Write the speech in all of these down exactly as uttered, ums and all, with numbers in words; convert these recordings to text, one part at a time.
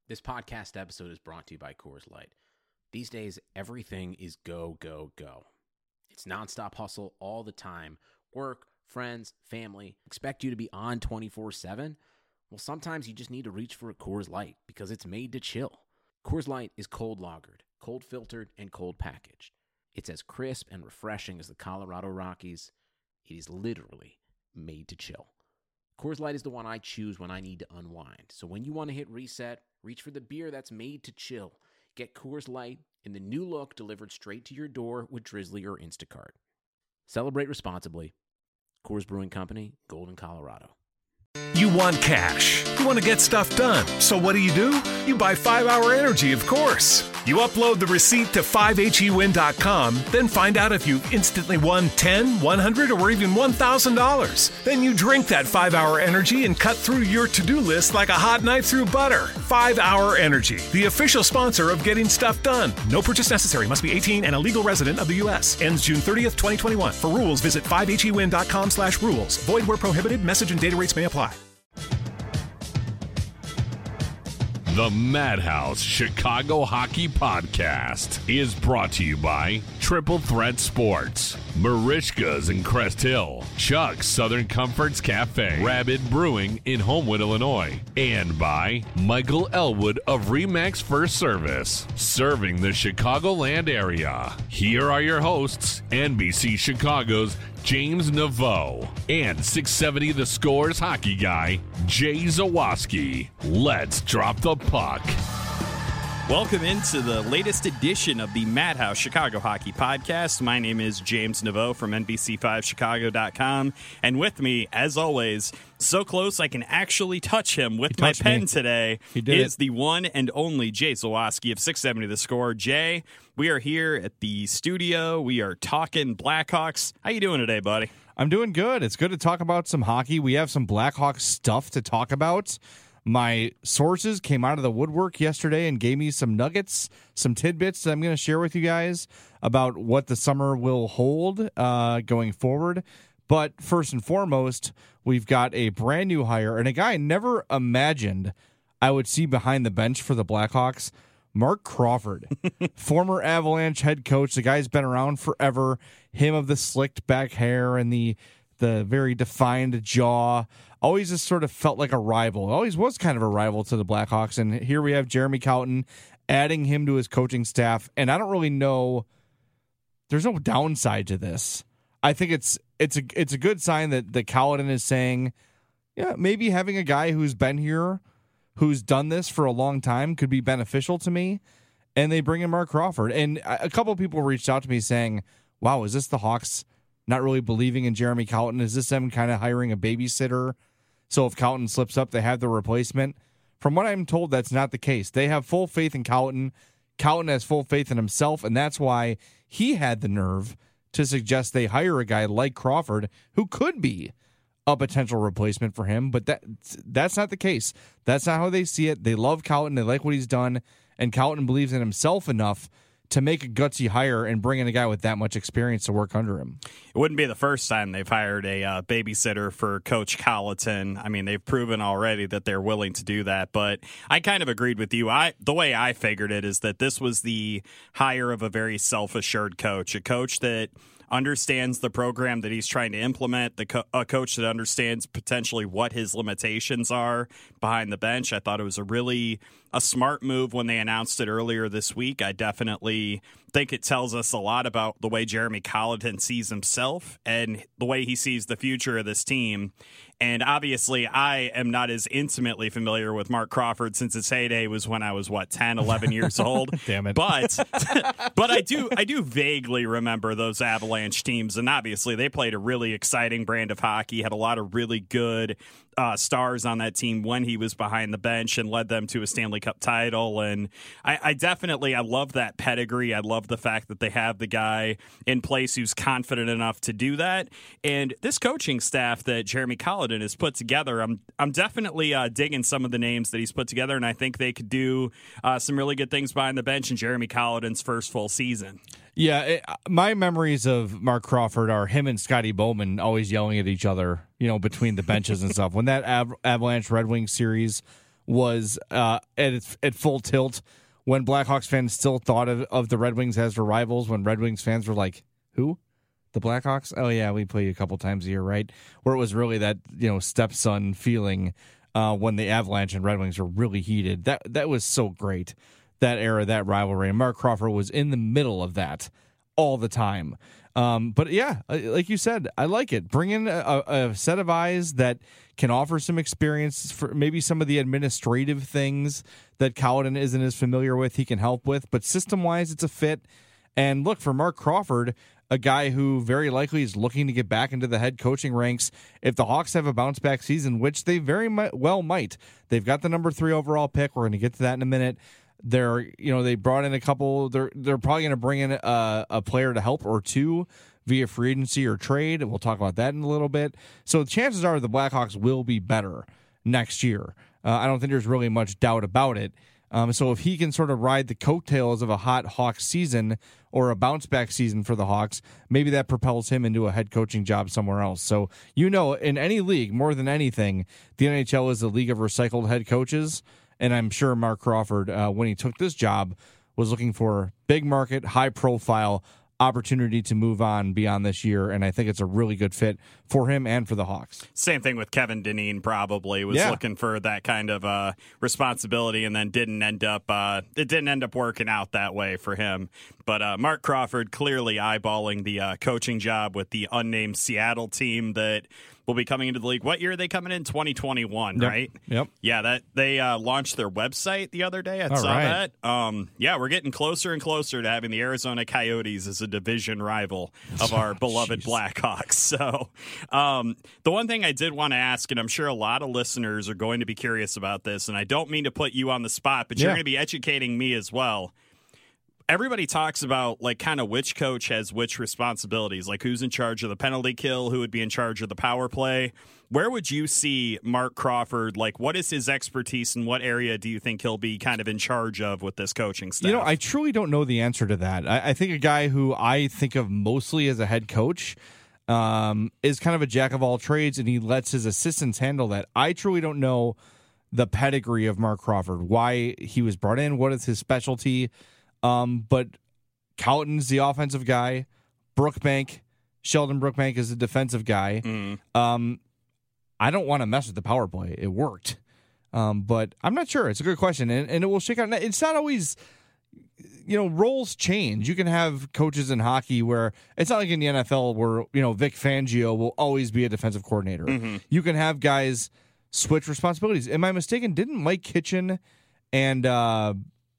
This podcast episode is brought to you by Coors Light. These days, everything is go, go, go. It's nonstop hustle all the time. Work, friends, family, expect you to be on twenty-four seven. Well, sometimes you just need to reach for a Coors Light because it's made to chill. Coors Light is cold lagered, cold filtered, and cold packaged. It's as crisp and refreshing as the Colorado Rockies. It is literally made to chill. Coors Light is the one I choose when I need to unwind. So when you want to hit reset, reach for the beer that's made to chill. Get Coors Light in the new look delivered straight to your door with Drizzly or Instacart. Celebrate responsibly. Coors Brewing Company, Golden, Colorado. You want cash. You want to get stuff done. So what do you do? You buy five hour Energy, of course. You upload the receipt to five H E win dot com, then find out if you instantly won ten, one hundred, or even one thousand dollars. Then you drink that five hour Energy and cut through your to-do list like a hot knife through butter. five hour Energy, the official sponsor of getting stuff done. No purchase necessary. Must be eighteen and a legal resident of the U S. Ends June thirtieth, twenty twenty-one. For rules, visit five H E win dot com slash rules. Void where prohibited. Message and data rates may apply. The Madhouse Chicago Hockey Podcast is brought to you by Triple Threat Sports, Marishka's in Crest Hill, Chuck's Southern Comforts Cafe, Rabbit Brewing in Homewood, Illinois, and by Michael Elwood of Remax First Service, serving the Chicagoland area. Here are your hosts, N B C Chicago's James Naveau and six seventy The Score's hockey guy, Jay Zawaski. Let's drop the puck. Welcome into the latest edition of the Madhouse Chicago Hockey Podcast. My name is James Naveau from N B C five Chicago dot com, and with me, as always, so close I can actually touch him with my pen me. today, He did is it. the one and only Jay Zawaski of six seventy The Score. Jay, we are here at the studio. We are talking Blackhawks. How you doing today, buddy? I'm doing good. It's good to talk about some hockey. We have some Blackhawks stuff to talk about. My sources came out of the woodwork yesterday and gave me some nuggets, some tidbits that I'm going to share with you guys about what the summer will hold uh, going forward. But first and foremost, we've got a brand new hire and a guy I never imagined I would see behind the bench for the Blackhawks, Marc Crawford, former Avalanche head coach. The guy's been around forever. Him of the slicked back hair and the the very defined jaw. Always just sort of felt like a rival. Always was kind of a rival to the Blackhawks. And here we have Jeremy Colliton adding him to his coaching staff. And I don't really know. There's no downside to this. I think it's it's a it's a good sign that the Colliton is saying, yeah, maybe having a guy who's been here, who's done this for a long time, could be beneficial to me. And they bring in Marc Crawford. And a couple of people reached out to me saying, wow, is this the Hawks not really believing in Jeremy Colliton? Is this them kind of hiring a babysitter? So if Colliton slips up, they have the replacement. From what I'm told, that's not the case. They have full faith in Colliton. Colliton has full faith in himself, and that's why he had the nerve to suggest they hire a guy like Crawford, who could be a potential replacement for him. But that that's not the case. That's not how they see it. They love Colliton. They like what he's done, and Colliton believes in himself enough to make a gutsy hire and bring in a guy with that much experience to work under him. It wouldn't be the first time they've hired a uh, babysitter for Coach Colliton. I mean, they've proven already that they're willing to do that. But I kind of agreed with you. I the way I figured it is that this was the hire of a very self-assured coach, a coach that understands the program that he's trying to implement, the co- a coach that understands potentially what his limitations are behind the bench. I thought it was a really a smart move when they announced it earlier this week. I definitely think it tells us a lot about the way Jeremy Colliton sees himself and the way he sees the future of this team. And obviously, I am not as intimately familiar with Marc Crawford since his heyday was when I was, what, ten, eleven years old. Damn it. But but I do I do vaguely remember those Avalanche teams. And obviously, they played a really exciting brand of hockey, had a lot of really good uh, stars on that team when he was behind the bench and led them to a Stanley Cup title. And I, I definitely, I love that pedigree. I love the fact that they have the guy in place who's confident enough to do that. And this coaching staff that Jeremy Colliton has put together, I'm I'm definitely uh, digging some of the names that he's put together, and I think they could do uh, some really good things behind the bench in Jeremy Colliton's first full season. Yeah, it, my memories of Marc Crawford are him and Scotty Bowman always yelling at each other, you know, between the benches and stuff. When that Av- Avalanche Red Wings series was uh, at its, at full tilt when Blackhawks fans still thought of, of the Red Wings as their rivals, when Red Wings fans were like, who? The Blackhawks? Oh, yeah, we play you a couple times a year, right? Where it was really that, you know, stepson feeling uh, when the Avalanche and Red Wings were really heated. That that was so great, that era, that rivalry. And Mark Crawford was in the middle of that all the time. Um, but, yeah, like you said, I like it. Bring in a, a set of eyes that can offer some experience for maybe some of the administrative things that Colliton isn't as familiar with, he can help with. But system-wise, it's a fit. And look, for Mark Crawford, a guy who very likely is looking to get back into the head coaching ranks, if the Hawks have a bounce-back season, which they very well might. They've got the number three overall pick. We're going to get to that in a minute. They're, you know, they brought in a couple. They're they're probably going to bring in a, a player to help or two via free agency or trade. We'll talk about that in a little bit. So chances are the Blackhawks will be better next year. Uh, I don't think there's really much doubt about it. Um, so if he can sort of ride the coattails of a hot Hawks season or a bounce back season for the Hawks, maybe that propels him into a head coaching job somewhere else. So, you know, in any league, more than anything, the N H L is a league of recycled head coaches. And I'm sure Mark Crawford, uh, when he took this job, was looking for big market, high profile opportunity to move on beyond this year, and I think it's a really good fit for him and for the Hawks. Same thing with Kevin Dineen, probably was yeah. looking for that kind of uh, responsibility, and then didn't end up uh, it didn't end up working out that way for him. But uh, Mark Crawford clearly eyeballing the uh, coaching job with the unnamed Seattle team that will be coming into the league. What year are they coming in? twenty twenty-one, yep. right? Yep. Yeah, that they uh, launched their website the other day. I All saw right. that. Um, yeah, we're getting closer and closer to having the Arizona Coyotes as a division rival of our beloved Blackhawks. So um, the one thing I did want to ask, and I'm sure a lot of listeners are going to be curious about this, and I don't mean to put you on the spot, but you're yeah. going to be educating me as well. Everybody talks about like kind of which coach has which responsibilities, like who's in charge of the penalty kill, who would be in charge of the power play. Where would you see Mark Crawford? Like, what is his expertise, and what area do you think he'll be kind of in charge of with this coaching staff? You know, I truly don't know the answer to that. I, I think a guy who I think of mostly as a head coach um, is kind of a jack of all trades, and he lets his assistants handle that. I truly don't know the pedigree of Mark Crawford, why he was brought in, what is his specialty. Um, but Colliton's the offensive guy. Brookbank, Sheldon Brookbank is the defensive guy. Mm. Um, I don't want to mess with the power play. It worked. Um, but I'm not sure. It's a good question, and, and it will shake out. It's not always, you know, roles change. You can have coaches in hockey where it's not like in the N F L where, you know, Vic Fangio will always be a defensive coordinator. Mm-hmm. You can have guys switch responsibilities. Am I mistaken? Didn't Mike Kitchen and uh,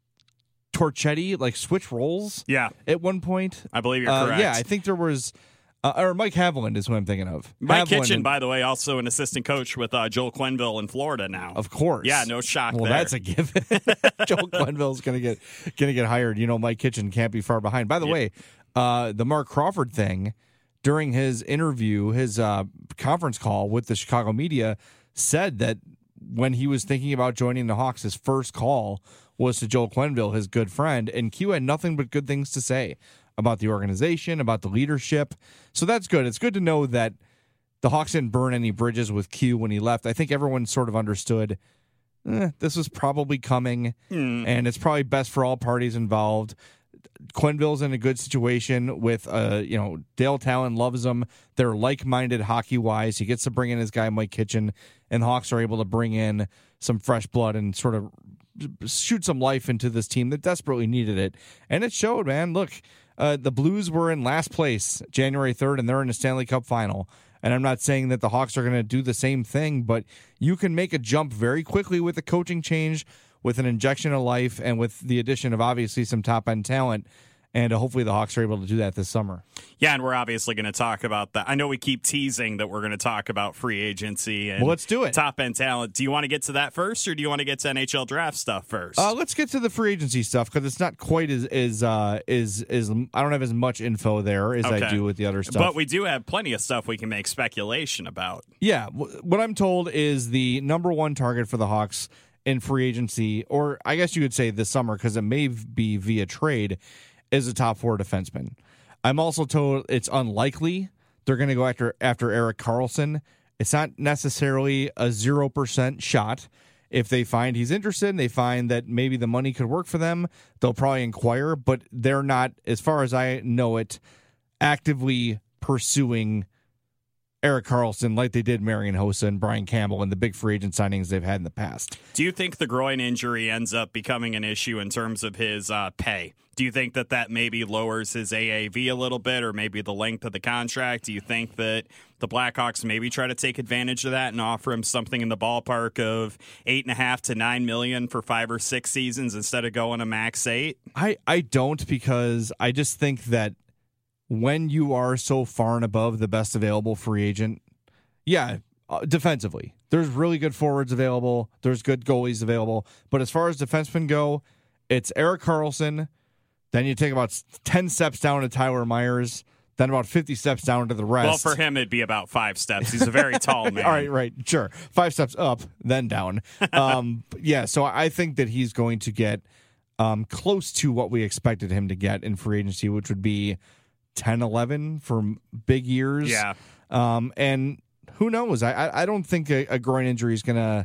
Torchetti like switch roles? Yeah, at one point, I believe you're uh, correct. Yeah, I think there was, uh, or Mike Haviland is who I'm thinking of. Mike Haviland Kitchen, and, by the way, also an assistant coach with uh, Joel Quenneville in Florida now. of course. Yeah, no shock. Well, there. that's a given. Joel Quenneville's gonna get gonna get hired. You know, Mike Kitchen can't be far behind. By the Yeah. way, uh, the Mark Crawford thing during his interview, his uh, conference call with the Chicago media, said that when he was thinking about joining the Hawks, his first call was to Joel Quenneville, his good friend, and Q had nothing but good things to say about the organization, about the leadership. So that's good. It's good to know that the Hawks didn't burn any bridges with Q when he left. I think everyone sort of understood eh, this was probably coming, Mm. and it's probably best for all parties involved. Quenneville's in a good situation with, uh, you know, Dale Talon loves him. They're like-minded hockey-wise. He gets to bring in his guy, Mike Kitchen, and the Hawks are able to bring in some fresh blood and sort of shoot some life into this team that desperately needed it. And it showed, man. Look, uh, the Blues were in last place January third, and they're in the Stanley Cup final. And I'm not saying that the Hawks are going to do the same thing, but you can make a jump very quickly with a coaching change, with an injection of life, and with the addition of obviously some top-end talent. And uh, hopefully the Hawks are able to do that this summer. Yeah, and we're obviously going to talk about that. I know we keep teasing that we're going to talk about free agency and Well, let's do it. top-end talent. Do you want to get to that first, or do you want to get to N H L draft stuff first? Uh, let's get to the free agency stuff because it's not quite as as uh, is is I don't have as much info there as Okay. I do with the other stuff. But we do have plenty of stuff we can make speculation about. Yeah, w- what I'm told is the number one target for the Hawks in free agency, or I guess you could say this summer because it may be via trade, is a top four defenseman. I'm also told it's unlikely they're going to go after after Erik Karlsson. It's not necessarily a zero percent shot. If they find he's interested and they find that maybe the money could work for them, they'll probably inquire, but they're not, as far as I know it, actively pursuing Erik Karlsson like they did Marian Hossa and Brian Campbell and the big free agent signings they've had in the past. Do you think the groin injury ends up becoming an issue in terms of his uh, pay? Do you think that that maybe lowers his A A V a little bit, or maybe the length of the contract? Do you think that the Blackhawks maybe try to take advantage of that and offer him something in the ballpark of eight and a half to nine million for five or six seasons instead of going a max eight? I, I don't, because I just think that when you are so far and above the best available free agent, yeah, uh, defensively, there's really good forwards available. There's good goalies available. But as far as defensemen go, it's Erik Karlsson. Then you take about ten steps down to Tyler Myers. Then about fifty steps down to the rest. Well, for him, it'd be about five steps. He's a very tall man. All right, right, sure. Five steps up, then down. Um, yeah, so I think that he's going to get um, close to what we expected him to get in free agency, which would be ten, eleven for big years. Yeah. Um, and who knows? I, I, I don't think a, a groin injury is going to,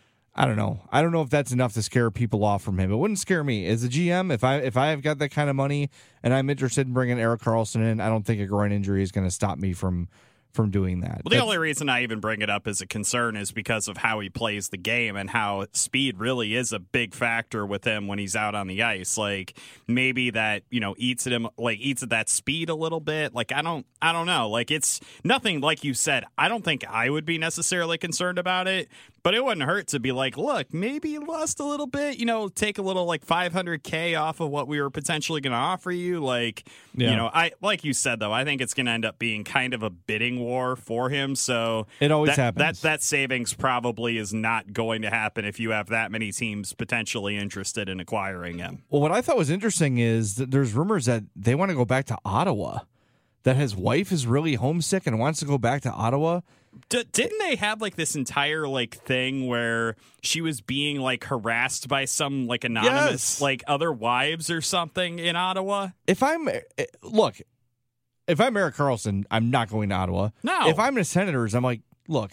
I don't know. I don't know if that's enough to scare people off from him. It wouldn't scare me. As a G M, if I if I have got that kind of money and I'm interested in bringing Erik Karlsson in, I don't think a groin injury is going to stop me from from doing that. Well, the That's, only reason I even bring it up as a concern is because of how he plays the game and how speed really is a big factor with him when he's out on the ice. Like maybe that, you know, eats at him, like eats at that speed a little bit. Like I don't, I don't know. Like it's nothing like you said. I don't think I would be necessarily concerned about it, but it wouldn't hurt to be like, look, maybe you lost a little bit, you know, take a little like five hundred K off of what we were potentially going to offer you. Like, yeah. you know, I, like you said, though, I think it's going to end up being kind of a bidding war for him. So it always that, happens. That, that savings probably is not going to happen if you have that many teams potentially interested in acquiring him. Well, what I thought was interesting is that there's rumors that they want to go back to Ottawa, that his wife is really homesick and wants to go back to Ottawa. D- didn't they have like this entire like thing where she was being like harassed by some like anonymous yes. like other wives or something in Ottawa? If I'm look, if I'm Erik Karlsson, I'm not going to Ottawa. No. If I'm the Senators, I'm like, look,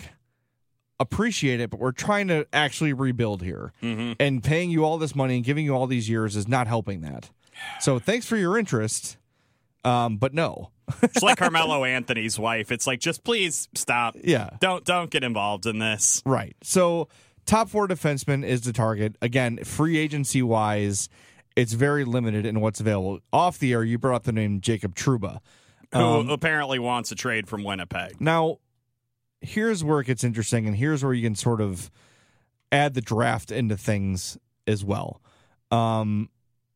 appreciate it, but we're trying to actually rebuild here, mm-hmm. and paying you all this money and giving you all these years is not helping that. So thanks for your interest, um, but no. It's like Carmelo Anthony's wife. It's like, just please stop. Yeah. Don't don't get involved in this. Right. So top four defenseman is the target. Again, free agency wise, it's very limited in what's available. Off the air, you brought up the name Jacob Trouba, who um, apparently wants a trade from Winnipeg. Now, here's where it gets interesting, and here's where you can sort of add the draft into things as well. Um,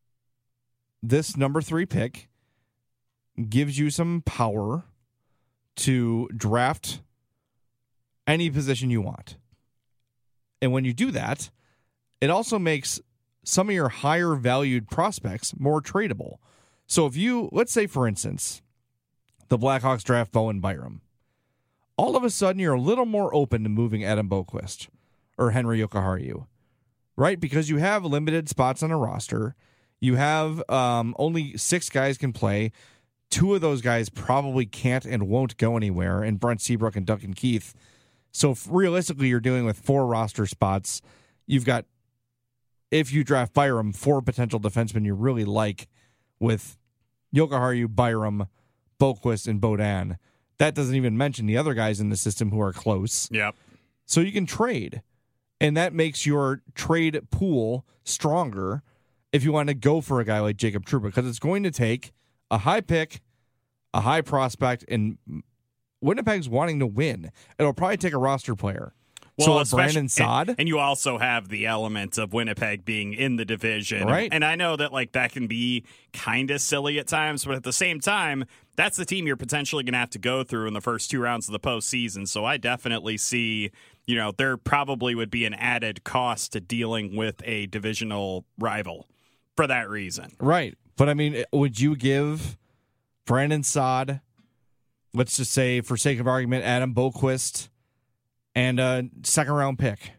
this number three pick gives you some power to draft any position you want. And when you do that, it also makes some of your higher valued prospects more tradable. So if you, let's say for instance, the Blackhawks draft Bowen Byram, all of a sudden you're a little more open to moving Adam Boqvist or Henry Jokiharju, right? Because you have limited spots on a roster. You have um, only six guys can play. Two of those guys probably can't and won't go anywhere, and Brent Seabrook and Duncan Keith. So if realistically, you're dealing with four roster spots. You've got, if you draft Byram, four potential defensemen you really like with Jokiharju, Byram, Boqvist, and Beaudin. That doesn't even mention the other guys in the system who are close. Yep. So you can trade, and that makes your trade pool stronger if you want to go for a guy like Jacob Trouba, because it's going to take a high pick, a high prospect, and Winnipeg's wanting to win. It'll probably take a roster player. Well, so Brandon Saad. And, and you also have the element of Winnipeg being in the division. Right. And I know that like that can be kind of silly at times, but at the same time, that's the team you're potentially going to have to go through in the first two rounds of the postseason. So I definitely see, you know, there probably would be an added cost to dealing with a divisional rival for that reason. Right. But, I mean, would you give Brandon Saad, let's just say, for sake of argument, Adam Boqvist, and a second-round pick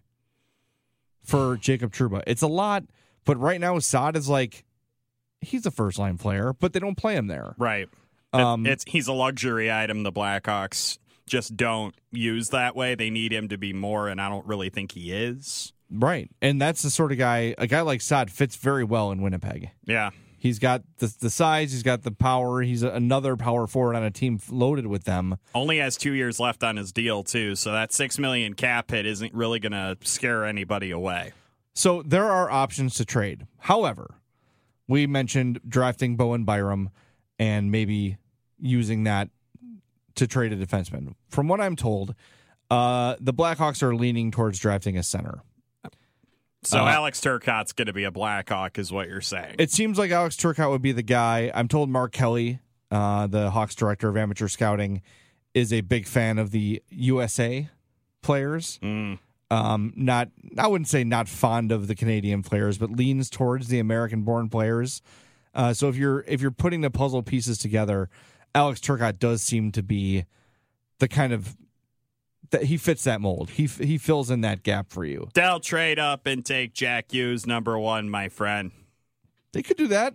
for Jacob Trouba? It's a lot, but right now Saad is like, he's a first-line player, but they don't play him there. Right. Um, it's He's a luxury item the Blackhawks just don't use that way. They need him to be more, and I don't really think he is. Right. And that's the sort of guy, a guy like Saad fits very well in Winnipeg. Yeah. He's got the the size, he's got the power, he's a, another power forward on a team loaded with them. Only has two years left on his deal, too, so that six million dollars cap hit isn't really going to scare anybody away. So there are options to trade. However, we mentioned drafting Bowen Byram and maybe using that to trade a defenseman. From what I'm told, uh, the Blackhawks are leaning towards drafting a center. So uh, Alex Turcotte's going to be a Blackhawk is what you're saying. It seems like Alex Turcotte would be the guy. I'm told Mark Kelly, uh, the Hawks director of amateur scouting, is a big fan of the U S A players. Mm. Um, not, I wouldn't say not fond of the Canadian players, but leans towards the American-born players. Uh, so if you're if you're putting the puzzle pieces together, Alex Turcotte does seem to be the kind of that he fits that mold. He he fills in that gap for you. They'll trade up and take Jack Hughes number one, my friend. They could do that.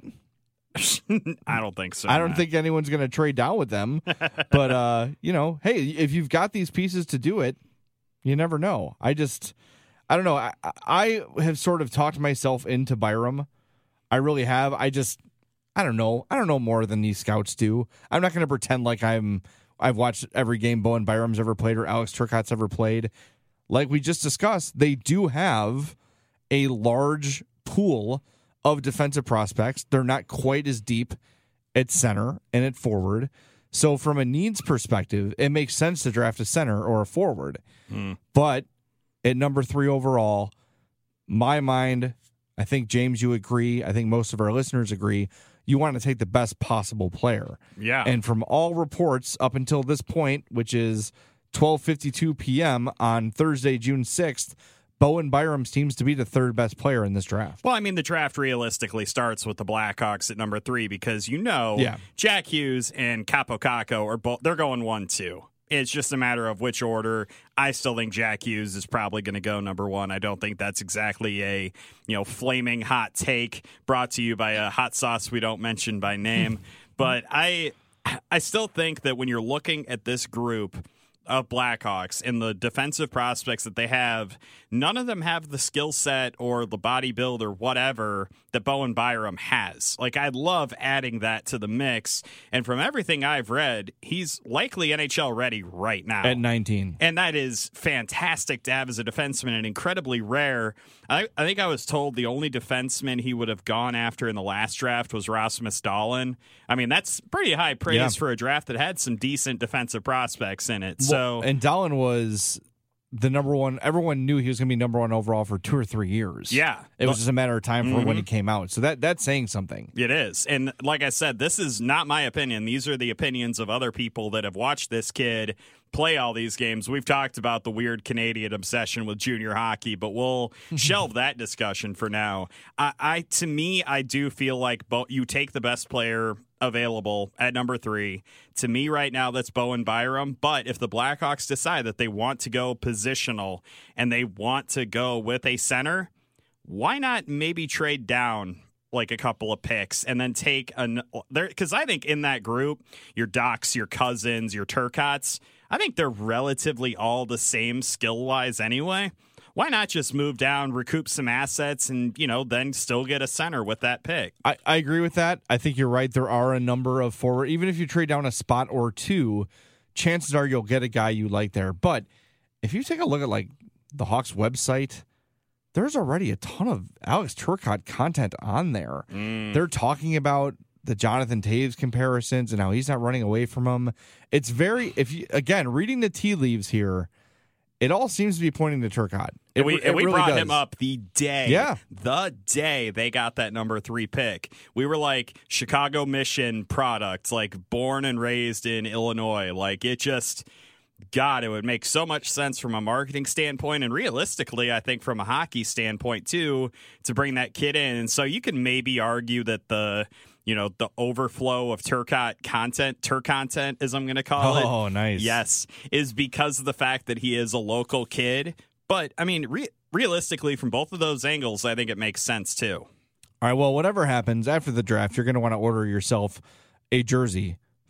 I don't think so. I don't Matt. think anyone's going to trade down with them. But uh, you know, hey, if you've got these pieces to do it, you never know. I just, I don't know. I, I have sort of talked myself into Byram. I really have. I just, I don't know. I don't know more than these scouts do. I'm not going to pretend like I'm. I've watched every game Bowen Byram's ever played or Alex Turcotte's ever played. Like we just discussed, they do have a large pool of defensive prospects. They're not quite as deep at center and at forward. So from a needs perspective, it makes sense to draft a center or a forward. Mm. But at number three overall, my mind, I think, James, you agree. I think most of our listeners agree. You want to take the best possible player. Yeah. And from all reports up until this point, which is twelve fifty-two p.m. on Thursday, June sixth, Bowen Byram seems to be the third best player in this draft. Well, I mean, the draft realistically starts with the Blackhawks at number three because you know yeah. Jack Hughes and Capo Caco are both, they're going one, two. It's just a matter of which order. I still think Jack Hughes is probably going to go number one. I don't think that's exactly a, you know, flaming hot take brought to you by a hot sauce we don't mention by name. But I I still think that when you're looking at this group of Blackhawks and the defensive prospects that they have, none of them have the skill set or the body build or whatever that Bowen Byram has. Like, I'd love adding that to the mix. And from everything I've read, he's likely N H L ready right now. At nineteen. And that is fantastic to have as a defenseman and incredibly rare. I, I think I was told the only defenseman he would have gone after in the last draft was Rasmus Dahlin. I mean, that's pretty high praise yeah. for a draft that had some decent defensive prospects in it. Well, so and Dahlin was the number one. Everyone knew he was going to be number one overall for two or three years. Yeah. It was just a matter of time for mm-hmm. when he came out. So that that's saying something. It is. And like I said, this is not my opinion. These are the opinions of other people that have watched this kid play all these games. We've talked about the weird Canadian obsession with junior hockey, but we'll shelve that discussion for now. I, I to me, I do feel like Bo- you take the best player available at number three. To me right now, that's Bowen Byram. But if the Blackhawks decide that they want to go positional and they want to go with a center, why not maybe trade down like a couple of picks and then take an there? Because I think in that group, your Docs, your Cousins, your Turcottes, I think they're relatively all the same skill-wise anyway. Why not just move down, recoup some assets, and, you know, then still get a center with that pick? I, I agree with that. I think you're right. There are a number of forward. Even if you trade down a spot or two, chances are you'll get a guy you like there. But if you take a look at, like, the Hawks website, there's already a ton of Alex Turcotte content on there. Mm. They're talking about the Jonathan Taves comparisons and how he's not running away from him. It's very, if you, again, reading the tea leaves here, it all seems to be pointing to Turcotte. It, and we, it and we really brought does. him up the day, yeah. the day they got that number three pick. We were like Chicago Mission products, like born and raised in Illinois. Like it just, God, it would make so much sense from a marketing standpoint and realistically, I think from a hockey standpoint too, to bring that kid in. And so you can maybe argue that the, you know, the overflow of Turcotte content, Tur content, as I'm going to call oh, it. Oh, nice. Yes, is because of the fact that he is a local kid. But, I mean, re realistically, from both of those angles, I think it makes sense, too. All right, well, whatever happens after the draft, you're going to want to order yourself a jersey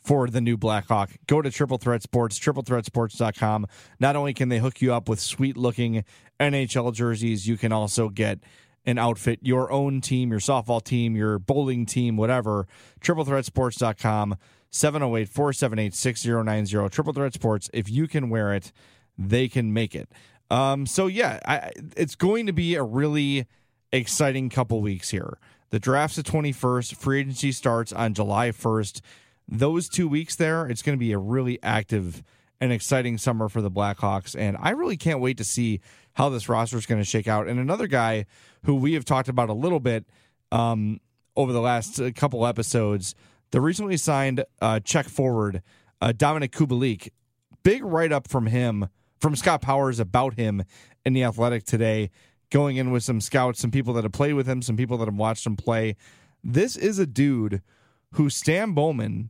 for the new Blackhawk. Go to Triple Threat Sports, triple threat sports dot com. Not only can they hook you up with sweet-looking N H L jerseys, you can also get an outfit, your own team, your softball team, your bowling team, whatever. triple threat sports dot com, seven oh eight, four seven eight, six oh nine oh. Triple Threat Sports, if you can wear it, they can make it. Um, so, yeah, I, it's going to be a really exciting couple weeks here. The draft's the twenty-first. Free agency starts on July first. Those two weeks there, it's going to be a really active and exciting summer for the Blackhawks, and I really can't wait to see how this roster is going to shake out. And another guy who we have talked about a little bit um, over the last uh, couple episodes, the recently signed uh, Czech forward, uh, Dominik Kubalik. Big write-up from him, from Scott Powers about him in The Athletic today, going in with some scouts, some people that have played with him, some people that have watched him play. This is a dude who Stan Bowman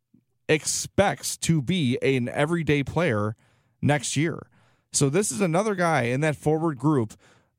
expects to be an everyday player next year. So this is another guy in that forward group,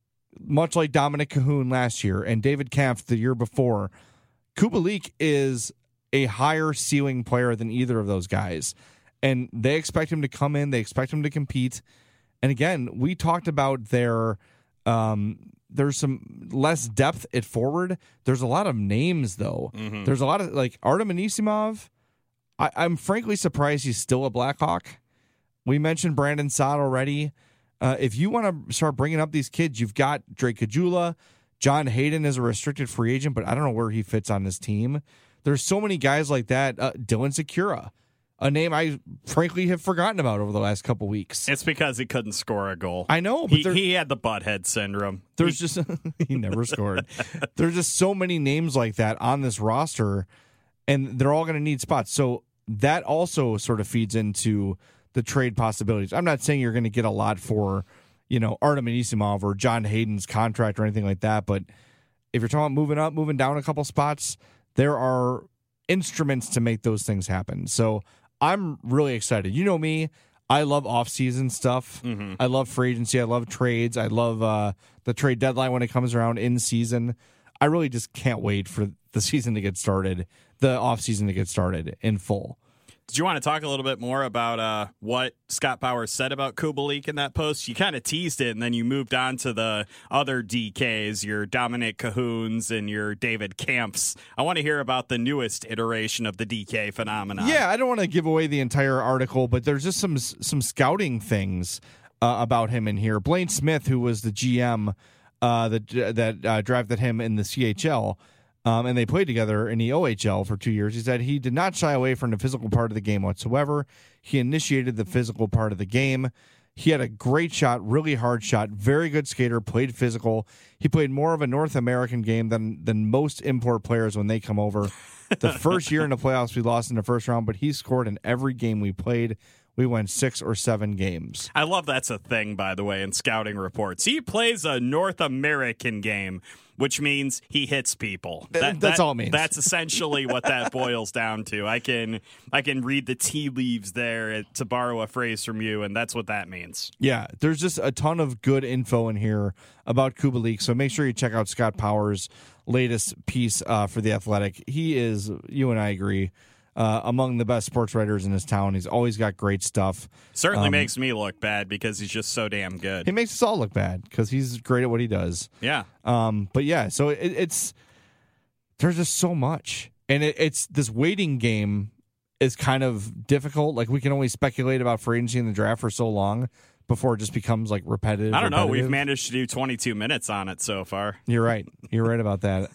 much like Dominic Cahoon last year and David Kampf the year before. Kubalik is a higher ceiling player than either of those guys, and they expect him to come in. They expect him to compete. And again, we talked about their um, there's some less depth at forward. There's a lot of names, though. Mm-hmm. There's a lot of, like, Artem Anisimov. I, I'm frankly surprised he's still a Blackhawk. We mentioned Brandon Saad already. Uh, if you want to start bringing up these kids, you've got Drake Caggiula. John Hayden is a restricted free agent, but I don't know where he fits on this team. There's so many guys like that. Uh, Dylan Sikura, a name I frankly have forgotten about over the last couple weeks. It's because he couldn't score a goal. I know. But he, he had the butthead syndrome. There's he, just he never scored. There's just so many names like that on this roster, and they're all going to need spots. So that also sort of feeds into the trade possibilities. I'm not saying you're going to get a lot for, you know, Artem Anisimov or John Hayden's contract or anything like that, but if you're talking about moving up, moving down a couple spots, there are instruments to make those things happen. So I'm really excited. You know me, I love off-season stuff. Mm-hmm. I love free agency. I love trades. I love uh, the trade deadline when it comes around in season. I really just can't wait for the season to get started, the off-season to get started in full. Did you want to talk a little bit more about uh, what Scott Powers said about Kubalik in that post? You kind of teased it, and then you moved on to the other D Ks, your Dominic Cahoons and your David Kampfs. I want to hear about the newest iteration of the D K phenomenon. Yeah, I don't want to give away the entire article, but there's just some some scouting things uh, about him in here. Blaine Smith, who was the G M uh, that, that uh, drafted him in the C H L, Um, and they played together in the O H L for two years. He said he did not shy away from the physical part of the game whatsoever. He initiated the physical part of the game. He had a great shot, really hard shot, very good skater, played physical. He played more of a North American game than than most import players when they come over. The first year in the playoffs, we lost in the first round, but he scored in every game we played. We went six or seven games. I love that's a thing, by the way, in scouting reports. He plays a North American game, which means he hits people. That, that's that, all it means. That's essentially what that boils down to. I can I can read the tea leaves there, to borrow a phrase from you, and that's what that means. Yeah, there's just a ton of good info in here about Kubalik, so make sure you check out Scott Powers' latest piece uh, for The Athletic. He is, you and I agree, Uh, among the best sports writers in his town. He's always got great stuff. Certainly um, makes me look bad because he's just so damn good. He makes us all look bad because he's great at what he does. Yeah. Um. But yeah, so it, it's there's just so much, and it, it's this waiting game is kind of difficult. Like, we can only speculate about free agency in the draft for so long before it just becomes like repetitive. I don't know. repetitive. We've managed to do twenty-two minutes on it so far. You're right. You're right about that.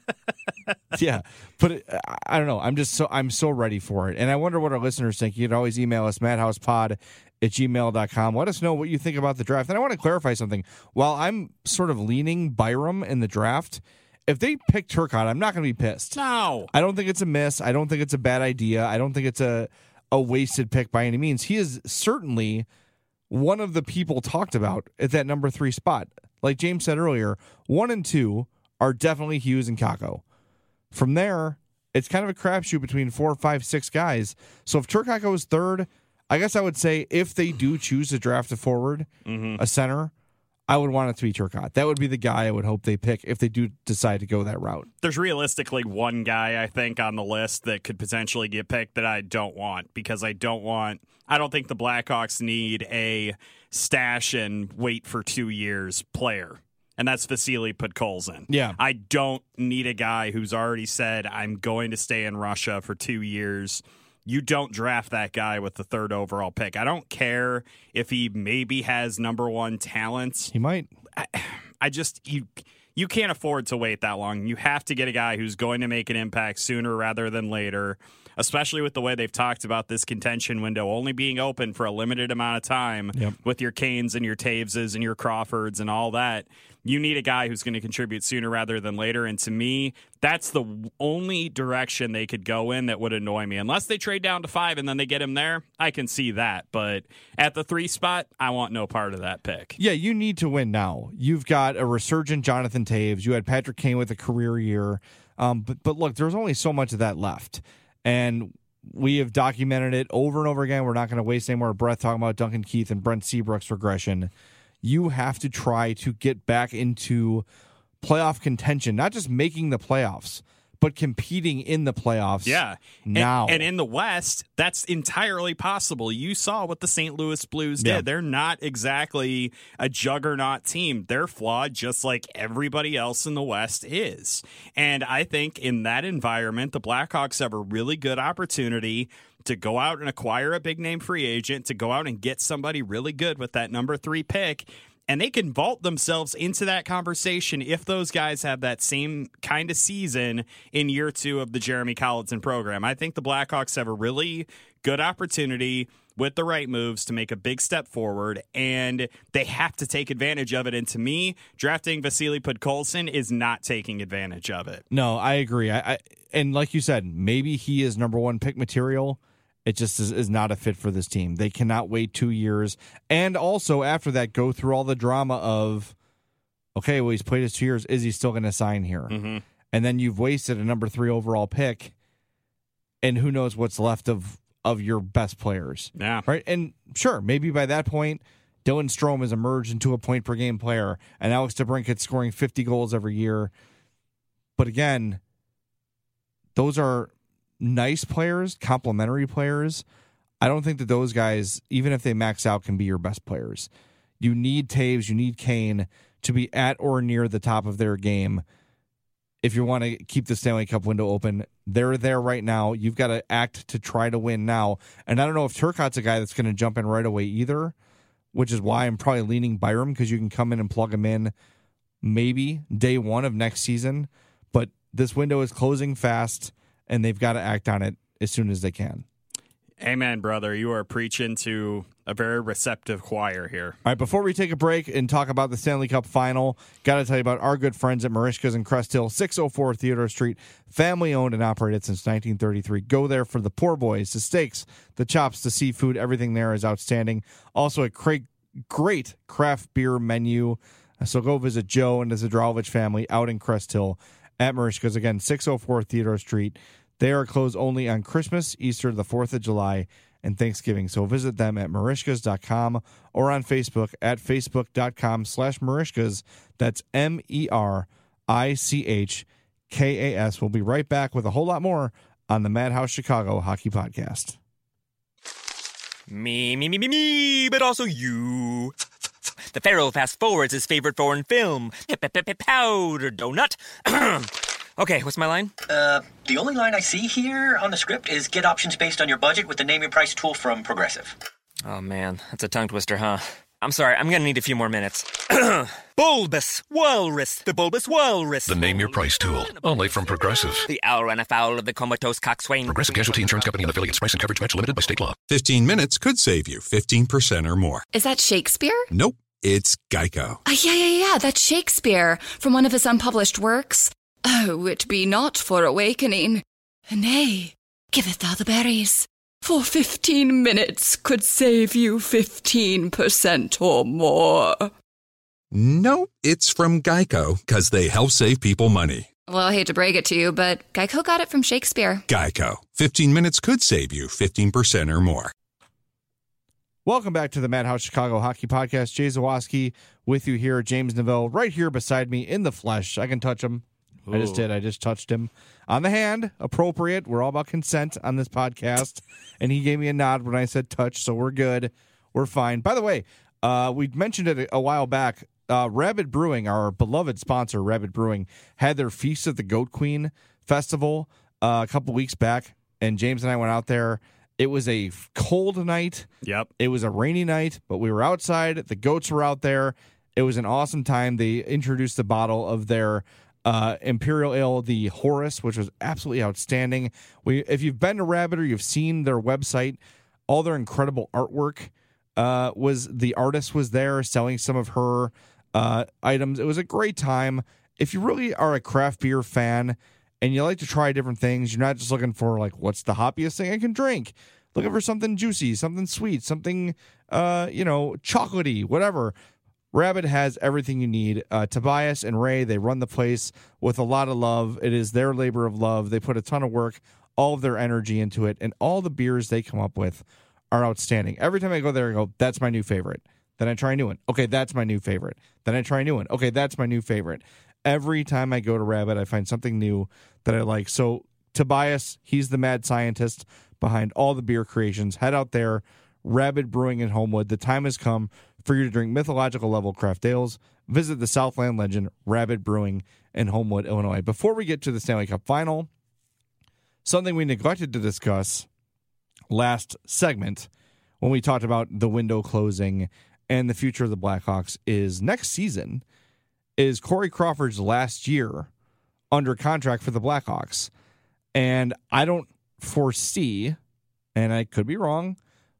Yeah, but it, I don't know. I'm just so I'm so ready for it, and I wonder what our listeners think. You can always email us madhousepod at gmail dot com. Let us know what you think about the draft. And I want to clarify something. While I'm sort of leaning Byram in the draft, if they pick Turcotte, I'm not going to be pissed. No, I don't think it's a miss. I don't think it's a bad idea. I don't think it's a a wasted pick by any means. He is certainly one of the people talked about at that number three spot. Like James said earlier, one and two are definitely Hughes and Kakko. From there, it's kind of a crapshoot between four, five, six guys. So if Turcotte goes third, I guess I would say if they do choose to draft a forward, mm-hmm. a center, I would want it to be Turcotte. That would be the guy I would hope they pick if they do decide to go that route. There's realistically one guy, I think, on the list that could potentially get picked that I don't want, because I don't want, I don't think the Blackhawks need a stash and wait for two years player. And that's Vasily Podkolzin. Yeah. I don't need a guy who's already said, I'm going to stay in Russia for two years. You don't draft that guy with the third overall pick. I don't care if he maybe has number one talent. He might. I, I just, you you can't afford to wait that long. You have to get a guy who's going to make an impact sooner rather than later, especially with the way they've talked about this contention window only being open for a limited amount of time. Yep. With your Canes and your Taveses and your Crawfords and all that. You need a guy who's going to contribute sooner rather than later. And to me, that's the only direction they could go in that would annoy me. Unless they trade down to five and then they get him there, I can see that. But at the three spot, I want no part of that pick. Yeah, you need to win now. You've got a resurgent Jonathan Taves. You had Patrick Kane with a career year. Um, but, but look, there's only so much of that left. And we have documented it over and over again. We're not going to waste any more breath talking about Duncan Keith and Brent Seabrook's regression. You have to try to get back into playoff contention, not just making the playoffs, but competing in the playoffs. Yeah. Now. And, and in the West, that's entirely possible. You saw what the Saint Louis Blues did. Yeah. They're not exactly a juggernaut team. They're flawed just like everybody else in the West is. And I think in that environment, the Blackhawks have a really good opportunity to go out and acquire a big name free agent, to go out and get somebody really good with that number three pick. And they can vault themselves into that conversation if those guys have that same kind of season in year two of the Jeremy Colliton program. I think the Blackhawks have a really good opportunity with the right moves to make a big step forward, and they have to take advantage of it. And to me, drafting Vasily Podkolzin is not taking advantage of it. No, I agree. I, I and like you said, maybe he is number one pick material. It just is, is not a fit for this team. They cannot wait two years. And also, after that, go through all the drama of, okay, well, he's played his two years. Is he still going to sign here? Mm-hmm. And then you've wasted a number three overall pick, and who knows what's left of, of your best players. Yeah. Right? And sure, maybe by that point, Dylan Strome has emerged into a point-per-game player, and Alex DeBrincat's scoring fifty goals every year. But again, those are nice players, complementary players. I don't think that those guys, even if they max out, can be your best players. You need Taves, you need Kane to be at or near the top of their game. If you want to keep the Stanley Cup window open, they're there right now. You've got to act to try to win now. And I don't know if Turcotte's a guy that's going to jump in right away either, which is why I'm probably leaning Byram, because you can come in and plug him in maybe day one of next season. But this window is closing fast, and they've got to act on it as soon as they can. Amen, brother. You are preaching to a very receptive choir here. All right, before we take a break and talk about the Stanley Cup final, got to tell you about our good friends at Merichka's in Crest Hill, six oh four Theodore Street, family-owned and operated since nineteen thirty-three. Go there for the poor boys, the steaks, the chops, the seafood. Everything there is outstanding. Also, a great, great craft beer menu. So go visit Joe and the Zdravovich family out in Crest Hill at Merichka's. Again, six oh four Theodore Street. They are closed only on Christmas, Easter, the fourth of July, and Thanksgiving. So visit them at Merichkas dot com or on Facebook at Facebook.com slash Merichkas. That's M E R I C H K A S. We'll be right back with a whole lot more on the Madhouse Chicago Hockey Podcast. Me, me, me, me, me, but also you. The Pharaoh fast forwards his favorite foreign film, Powder Donut. Okay, what's my line? Uh, the only line I see here on the script is get options based on your budget with the Name Your Price tool from Progressive. Oh, man, that's a tongue twister, huh? I'm sorry, I'm gonna need a few more minutes. Bulbous Walrus, the Bulbous Walrus. The Name Your Price tool, only from Progressive. The owl ran afoul of the comatose coxswain. Progressive Casualty Insurance Company and affiliates. Price and coverage match limited by state law. fifteen minutes could save you fifteen percent or more. Is that Shakespeare? Nope, it's Geico. Uh, yeah, yeah, yeah, that's Shakespeare from one of his unpublished works. Oh, it be not for awakening. Nay, giveth thou the berries. For fifteen minutes could save you fifteen percent or more. Nope, it's from Geico, because they help save people money. Well, I hate to break it to you, but Geico got it from Shakespeare. Geico. fifteen minutes could save you fifteen percent or more. Welcome back to the Madhouse Chicago Hockey Podcast. Jay Zawaski with you here. James Neville right here beside me in the flesh. I can touch him. Ooh. I just did. I just touched him on the hand. Appropriate. We're all about consent on this podcast. And he gave me a nod when I said touch, so we're good. We're fine. By the way, uh, we mentioned it a while back. Uh, Rabid Brewing, our beloved sponsor, Rabid Brewing, had their Feast of the Goat Queen festival uh, a couple weeks back. And James and I went out there. It was a cold night. Yep. It was a rainy night, but we were outside. The goats were out there. It was an awesome time. They introduced the bottle of their uh, Imperial Ale, the Horus, which was absolutely outstanding. We, if you've been to Rabbit or you've seen their website, all their incredible artwork uh, was the artist was there selling some of her uh, items. It was a great time. If you really are a craft beer fan and you like to try different things, you're not just looking for, like, what's the hoppiest thing I can drink? Looking for something juicy, something sweet, something, uh, you know, chocolatey, whatever. Rabbit has everything you need. Uh, Tobias and Ray, they run the place with a lot of love. It is their labor of love. They put a ton of work, all of their energy into it, and all the beers they come up with are outstanding. Every time I go there, I go, that's my new favorite. Then I try a new one. Okay, that's my new favorite. Then I try a new one. Okay, that's my new favorite. Every time I go to Rabbit, I find something new that I like. So Tobias, he's the mad scientist behind all the beer creations. Head out there, Rabbit Brewing in Homewood. The time has come for you to drink mythological level craft ales. Visit the Southland legend, Rabbit Brewing in Homewood, Illinois. Before we get to the Stanley Cup Final, something we neglected to discuss last segment when we talked about the window closing and the future of the Blackhawks is next season is Corey Crawford's last year under contract for the Blackhawks. And I don't foresee, and I could be wrong,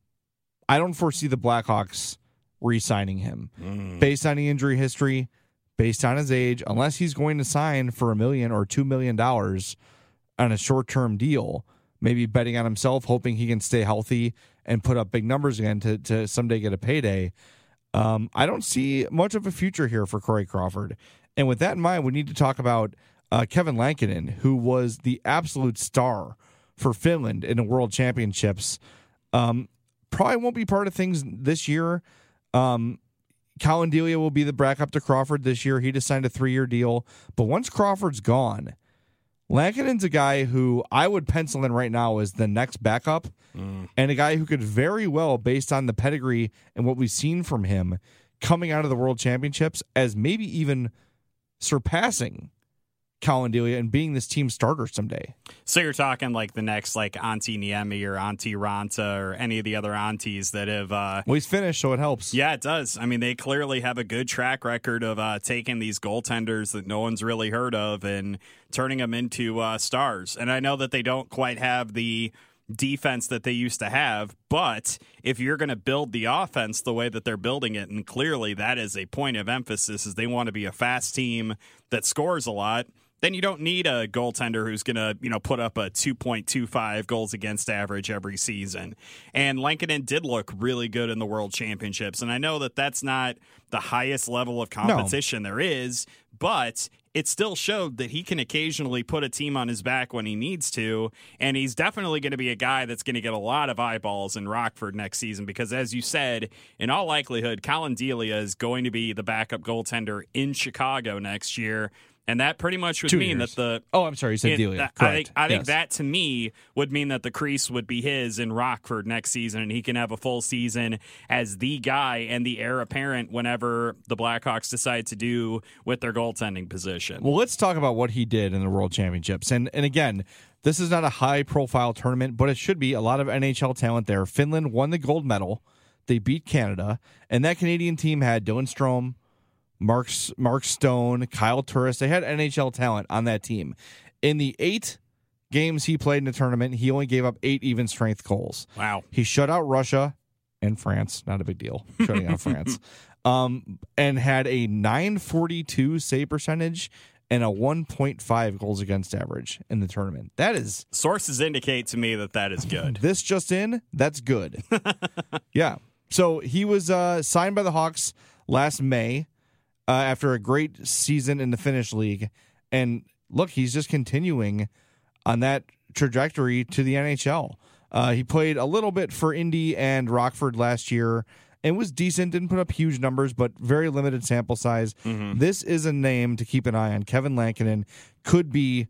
I don't foresee the Blackhawks re-signing him. Mm. Based on the injury history, based on his age, unless he's going to sign for a million or two million dollars on a short-term deal, maybe betting on himself, hoping he can stay healthy and put up big numbers again to, to someday get a payday. Um, I don't see much of a future here for Corey Crawford. And with that in mind, we need to talk about uh, Kevin Lankinen, who was the absolute star for Finland in the World Championships. Um, probably won't be part of things this year. Um, Colin Delia will be the backup to Crawford this year. He just signed a three-year deal. But once Crawford's gone, Lankinen's a guy who I would pencil in right now as the next backup mm. and a guy who could very well, based on the pedigree and what we've seen from him coming out of the World Championships, as maybe even surpassing Colin Delia and being this team starter someday. So you're talking like the next like Antti Niemi or Antti Ranta or any of the other aunties that have... Uh, well, he's finished, so it helps. Yeah, it does. I mean, they clearly have a good track record of uh, taking these goaltenders that no one's really heard of and turning them into uh, stars. And I know that they don't quite have the defense that they used to have, but if you're going to build the offense the way that they're building it, and clearly that is a point of emphasis, is they want to be a fast team that scores a lot, then you don't need a goaltender who's going to, you know, put up a two point two five goals against average every season. And Lankinen did look really good in the World Championships. And I know that that's not the highest level of competition no. there is, but it still showed that he can occasionally put a team on his back when he needs to. And he's definitely going to be a guy that's going to get a lot of eyeballs in Rockford next season because, as you said, in all likelihood, Colin Delia is going to be the backup goaltender in Chicago next year. And that pretty much would Two mean years. that the oh, I'm sorry, you said Delia. That, Correct. I think I think yes. that to me would mean that the crease would be his in Rockford next season, and he can have a full season as the guy and the heir apparent whenever the Blackhawks decide to do with their goaltending position. Well, let's talk about what he did in the World Championships. And and again, this is not a high profile tournament, but it should be. A lot of N H L talent there. Finland won the gold medal. They beat Canada, and that Canadian team had Dylan Strome, Mark, Mark Stone, Kyle Turris. They had N H L talent on that team. In the eight games he played in the tournament, he only gave up eight even strength goals. Wow. He shut out Russia and France. Not a big deal, shutting out France. Um, and had a nine forty-two save percentage and a one point five goals against average in the tournament. That is... Sources indicate to me that that is good. This just in, that's good. Yeah. So he was uh, signed by the Hawks last May. Uh, after a great season in the Finnish league. And look, he's just continuing on that trajectory to the N H L. Uh, he played a little bit for Indy and Rockford last year and was decent. Didn't put up huge numbers, but very limited sample size. Mm-hmm. This is a name to keep an eye on. Kevin Lankinen could be,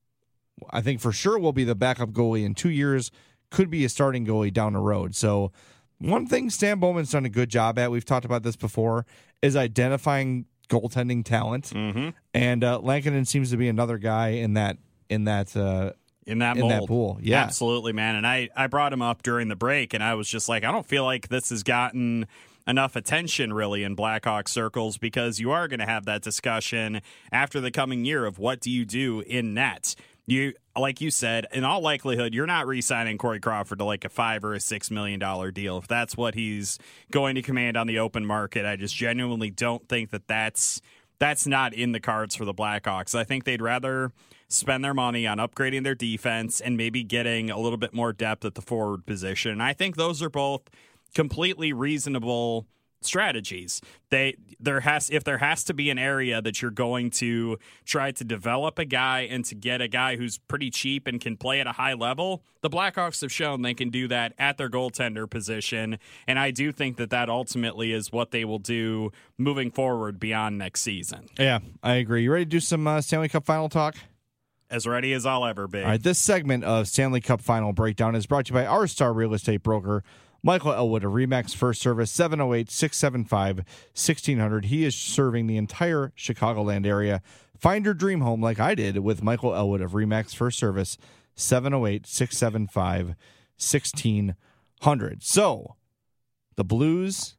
I think for sure will be the backup goalie in two years, could be a starting goalie down the road. So one thing Stan Bowman's done a good job at, we've talked about this before, is identifying goaltending talent. Mm-hmm. And uh, Lankinen seems to be another guy in that in that uh, in that in mold. that pool. Yeah, absolutely, man. And I, I brought him up during the break, and I was just like, I don't feel like this has gotten enough attention really in Blackhawk circles, because you are going to have that discussion after the coming year of what do you do in net. You, like you said, in all likelihood, you're not re-signing Corey Crawford to like a five or a six million dollar deal. If that's what he's going to command on the open market, I just genuinely don't think that that's that's not in the cards for the Blackhawks. I think they'd rather spend their money on upgrading their defense and maybe getting a little bit more depth at the forward position. And I think those are both completely reasonable strategies. They there has if there has to be an area that you're going to try to develop a guy and to get a guy who's pretty cheap and can play at a high level, the Blackhawks have shown they can do that at their goaltender position, and I do think that that ultimately is what they will do moving forward beyond next season. Yeah, I agree. You ready to do some uh, Stanley Cup final talk? As ready as I'll ever be. All right, this segment of Stanley Cup final breakdown is brought to you by our star real estate broker, Michael Elwood of Remax First Service, seven oh eight, six seven five, one six zero zero. He is serving the entire Chicagoland area. Find your dream home like I did with Michael Elwood of Remax First Service, seven oh eight, six seven five, one six zero zero. So, the Blues,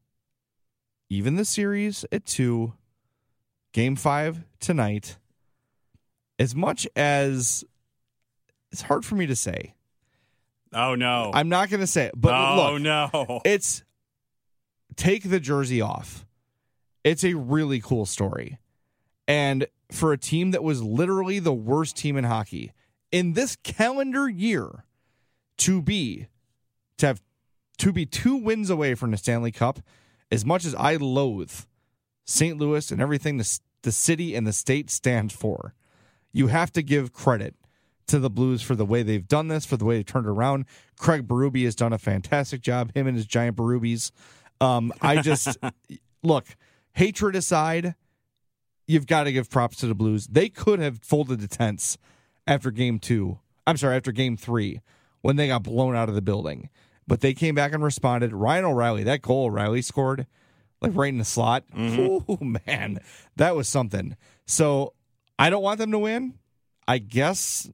even the series at two, game five tonight. As much as it's hard for me to say. Oh, no. I'm not going to say it. But oh, look, no. It's take the jersey off. It's a really cool story. And for a team that was literally the worst team in hockey in this calendar year to be to have to be two wins away from the Stanley Cup, as much as I loathe Saint Louis and everything the, the city and the state stand for, you have to give credit to the Blues for the way they've done this, for the way they turned it around. Craig Berube has done a fantastic job, him and his giant Berubes. Um, I just, look, hatred aside, you've got to give props to the Blues. They could have folded the tents after game two. I'm sorry, after game three, when they got blown out of the building. But they came back and responded. Ryan O'Reilly, that goal O'Reilly scored, like right in the slot. Mm-hmm. Oh, man, that was something. So I don't want them to win. I guess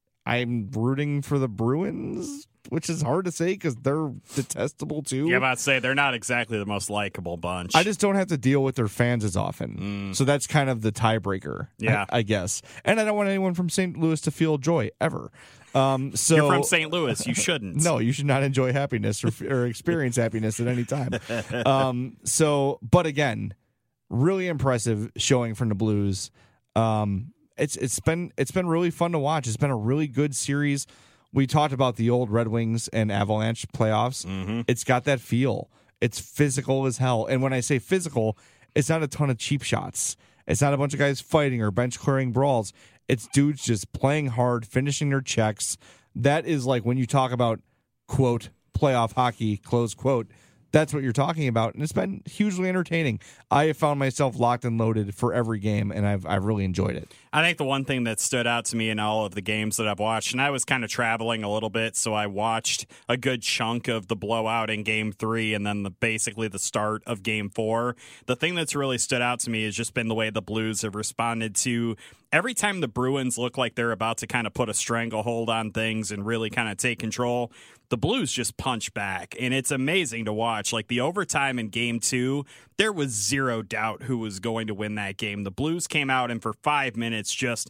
I'm rooting for the Bruins, which is hard to say because they're detestable too. Yeah, I'm about to say they're not exactly the most likable bunch. I just don't have to deal with their fans as often. Mm. So that's kind of the tiebreaker, yeah. I, I guess. And I don't want anyone from Saint Louis to feel joy ever. Um, so You're from Saint Louis. You shouldn't. No, you should not enjoy happiness or, or experience happiness at any time. Um, so, but again, really impressive showing from the Blues. Um, it's it's been it's been really fun to watch. It's been a really good series. We talked about the old Red Wings and Avalanche playoffs. Mm-hmm. It's got that feel. It's physical as hell. And when I say physical, it's not a ton of cheap shots. It's not a bunch of guys fighting or bench clearing brawls. It's dudes just playing hard, finishing their checks. That is like when you talk about, quote, playoff hockey, close quote. That's what you're talking about, and it's been hugely entertaining. I have found myself locked and loaded for every game, and I've I've really enjoyed it. I think the one thing that stood out to me in all of the games that I've watched, and I was kind of traveling a little bit, so I watched a good chunk of the blowout in Game Three, and then the basically the start of Game Four. The thing that's really stood out to me has just been the way the Blues have responded to every time the Bruins look like they're about to kind of put a stranglehold on things and really kind of take control. The Blues just punch back, and it's amazing to watch. Like the overtime in Game Two, there was zero doubt who was going to win that game. The Blues came out and for five minutes just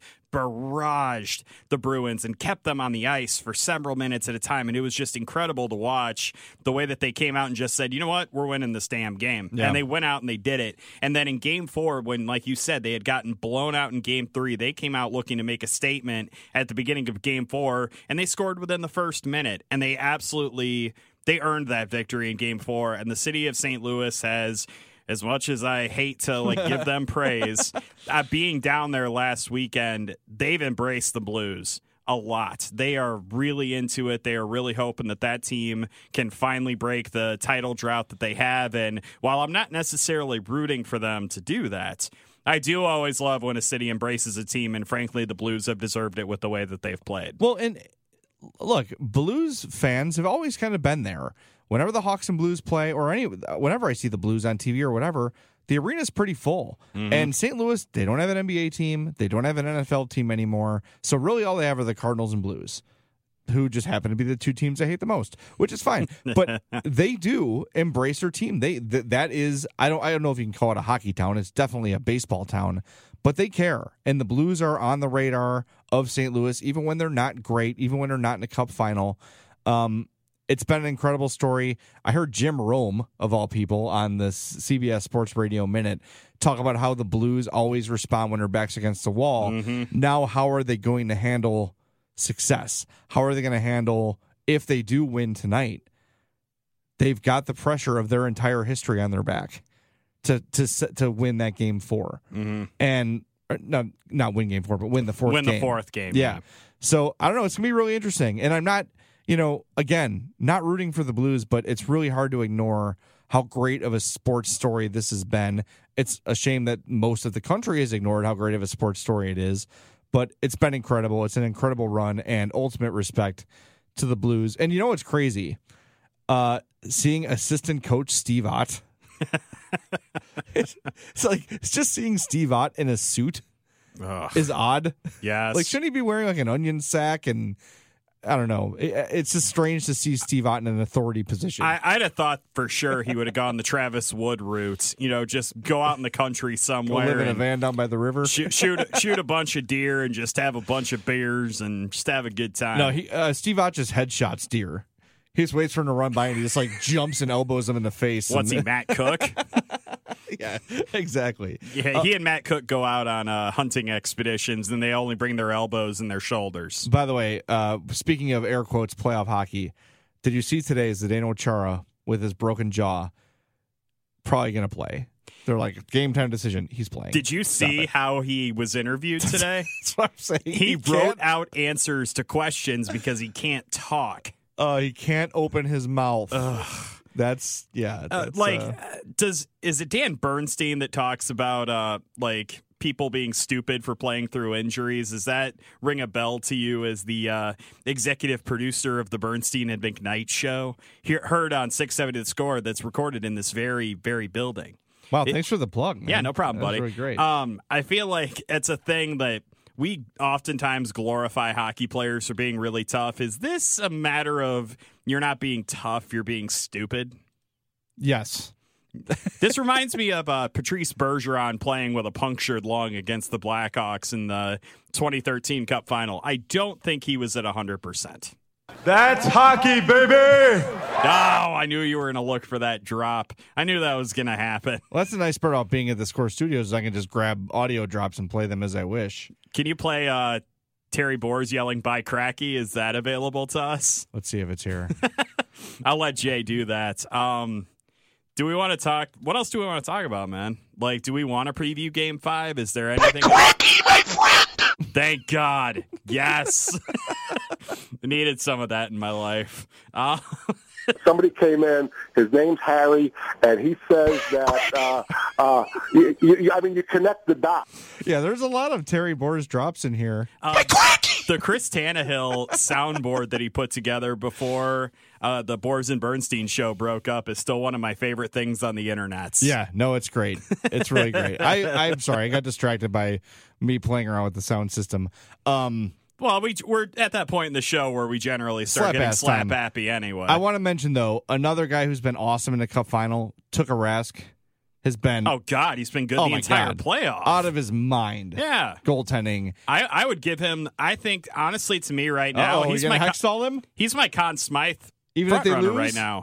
barraged the Bruins and kept them on the ice for several minutes at a time, and it was just incredible to watch the way that they came out and just said, you know what, we're winning this damn game. Yeah. And they went out and they did it. And then in Game Four, when, like you said, they had gotten blown out in Game Three, they came out looking to make a statement at the beginning of Game Four, and they scored within the first minute, and they absolutely they earned that victory in Game Four. And the city of Saint Louis has, as much as I hate to like give them praise, uh, being down there last weekend, they've embraced the Blues a lot. They are really into it. They are really hoping that that team can finally break the title drought that they have. And while I'm not necessarily rooting for them to do that, I do always love when a city embraces a team, and frankly, the Blues have deserved it with the way that they've played. Well, and look, Blues fans have always kind of been there. Whenever the Hawks and Blues play, or any, whenever I see the Blues on T V or whatever, the arena's pretty full. Mm-hmm. And Saint Louis, they don't have an N B A team. They don't have an N F L team anymore. So really all they have are the Cardinals and Blues, who just happen to be the two teams I hate the most, which is fine. But they do embrace their team. They th- That is, I don't, I don't know if you can call it a hockey town. It's definitely a baseball town. But they care. And the Blues are on the radar of Saint Louis, even when they're not great, even when they're not in a cup final. Um, It's been an incredible story. I heard Jim Rome, of all people, on the C B S Sports Radio Minute talk about how the Blues always respond when their back's against the wall. Mm-hmm. Now, how are they going to handle success? How are they going to handle if they do win tonight? They've got the pressure of their entire history on their back to to to win that game four. Mm-hmm. And not not win game four, but win the fourth win game. Win the fourth game. Yeah. yeah. So, I don't know. It's going to be really interesting. And I'm not... You know, again, not rooting for the Blues, but it's really hard to ignore how great of a sports story this has been. It's a shame that most of the country has ignored how great of a sports story it is, but it's been incredible. It's an incredible run, and ultimate respect to the Blues. And you know what's crazy? Uh, seeing assistant coach Steve Ott. it's, it's like it's just seeing Steve Ott in a suit Ugh. is odd. Yes. Like, shouldn't he be wearing like an onion sack and... I don't know. It, it's just strange to see Steve Ott in an authority position. I, I'd have thought for sure he would have gone the Travis Wood route. You know, just go out in the country somewhere. Go live in a van down by the river. Shoot, shoot, shoot a bunch of deer and just have a bunch of beers and just have a good time. No, he, uh, Steve Ott just headshots deer. He just waits for him to run by and he just like jumps and elbows him in the face. What's and, he, Matt Cook? Yeah, exactly. Yeah, uh, he and Matt Cook go out on uh, hunting expeditions, and they only bring their elbows and their shoulders. By the way, uh, speaking of air quotes playoff hockey, did you see today Zdeno Chara with his broken jaw probably going to play? They're like, game time decision. He's playing. Did you see how he was interviewed today? That's what I'm saying. He, he wrote out answers to questions because he can't talk. Uh, he can't open his mouth. Ugh. That's yeah. That's, uh, like, uh, does is it Dan Bernstein that talks about uh like people being stupid for playing through injuries? Does that ring a bell to you as the uh, executive producer of the Bernstein and McKnight show? He- heard on six seventy The Score that's recorded in this very very building. Wow, it, thanks for the plug, man. Yeah, no problem, buddy. That was really great. Um, I feel like it's a thing that we oftentimes glorify hockey players for being really tough. Is this a matter of you're not being tough, you're being stupid? Yes. This reminds me of uh, Patrice Bergeron playing with a punctured lung against the Blackhawks in the twenty thirteen Cup Final. I don't think he was at one hundred percent. That's hockey, baby! Oh, I knew you were going to look for that drop. I knew that was going to happen. Well, that's the nice part about being at the Score Studios is I can just grab audio drops and play them as I wish. Can you play uh, Terry Boers yelling, "Bye, Cracky"? Is that available to us? Let's see if it's here. I'll let Jay do that. Um, do we want to talk? What else do we want to talk about, man? Like, do we want to preview Game Five? Is there anything? Cracky, my friend! Thank God. Yes. I needed some of that in my life. Uh, Somebody came in, his name's Harry, and he says that, uh, uh, you, you, I mean, you connect the dots. Yeah, there's a lot of Terry Boers drops in here. Uh, the Chris Tannehill soundboard that he put together before uh, the Boers and Bernstein show broke up is still one of my favorite things on the internet. Yeah, no, it's great. It's really great. I, I'm sorry, I got distracted by me playing around with the sound system. Um, Well, we, we're at that point in the show where we generally start slap getting slap time. happy anyway. I want to mention, though, another guy who's been awesome in the Cup Final, Tuukka Rask, has been... Oh, God, he's been good oh the my entire God. playoff. Out of his mind. Yeah. Goaltending. I, I would give him, I think, honestly, to me right now, Uh-oh, he's you my gonna hexstall him? He's my Conn Smythe Even if they front runner lose? right now.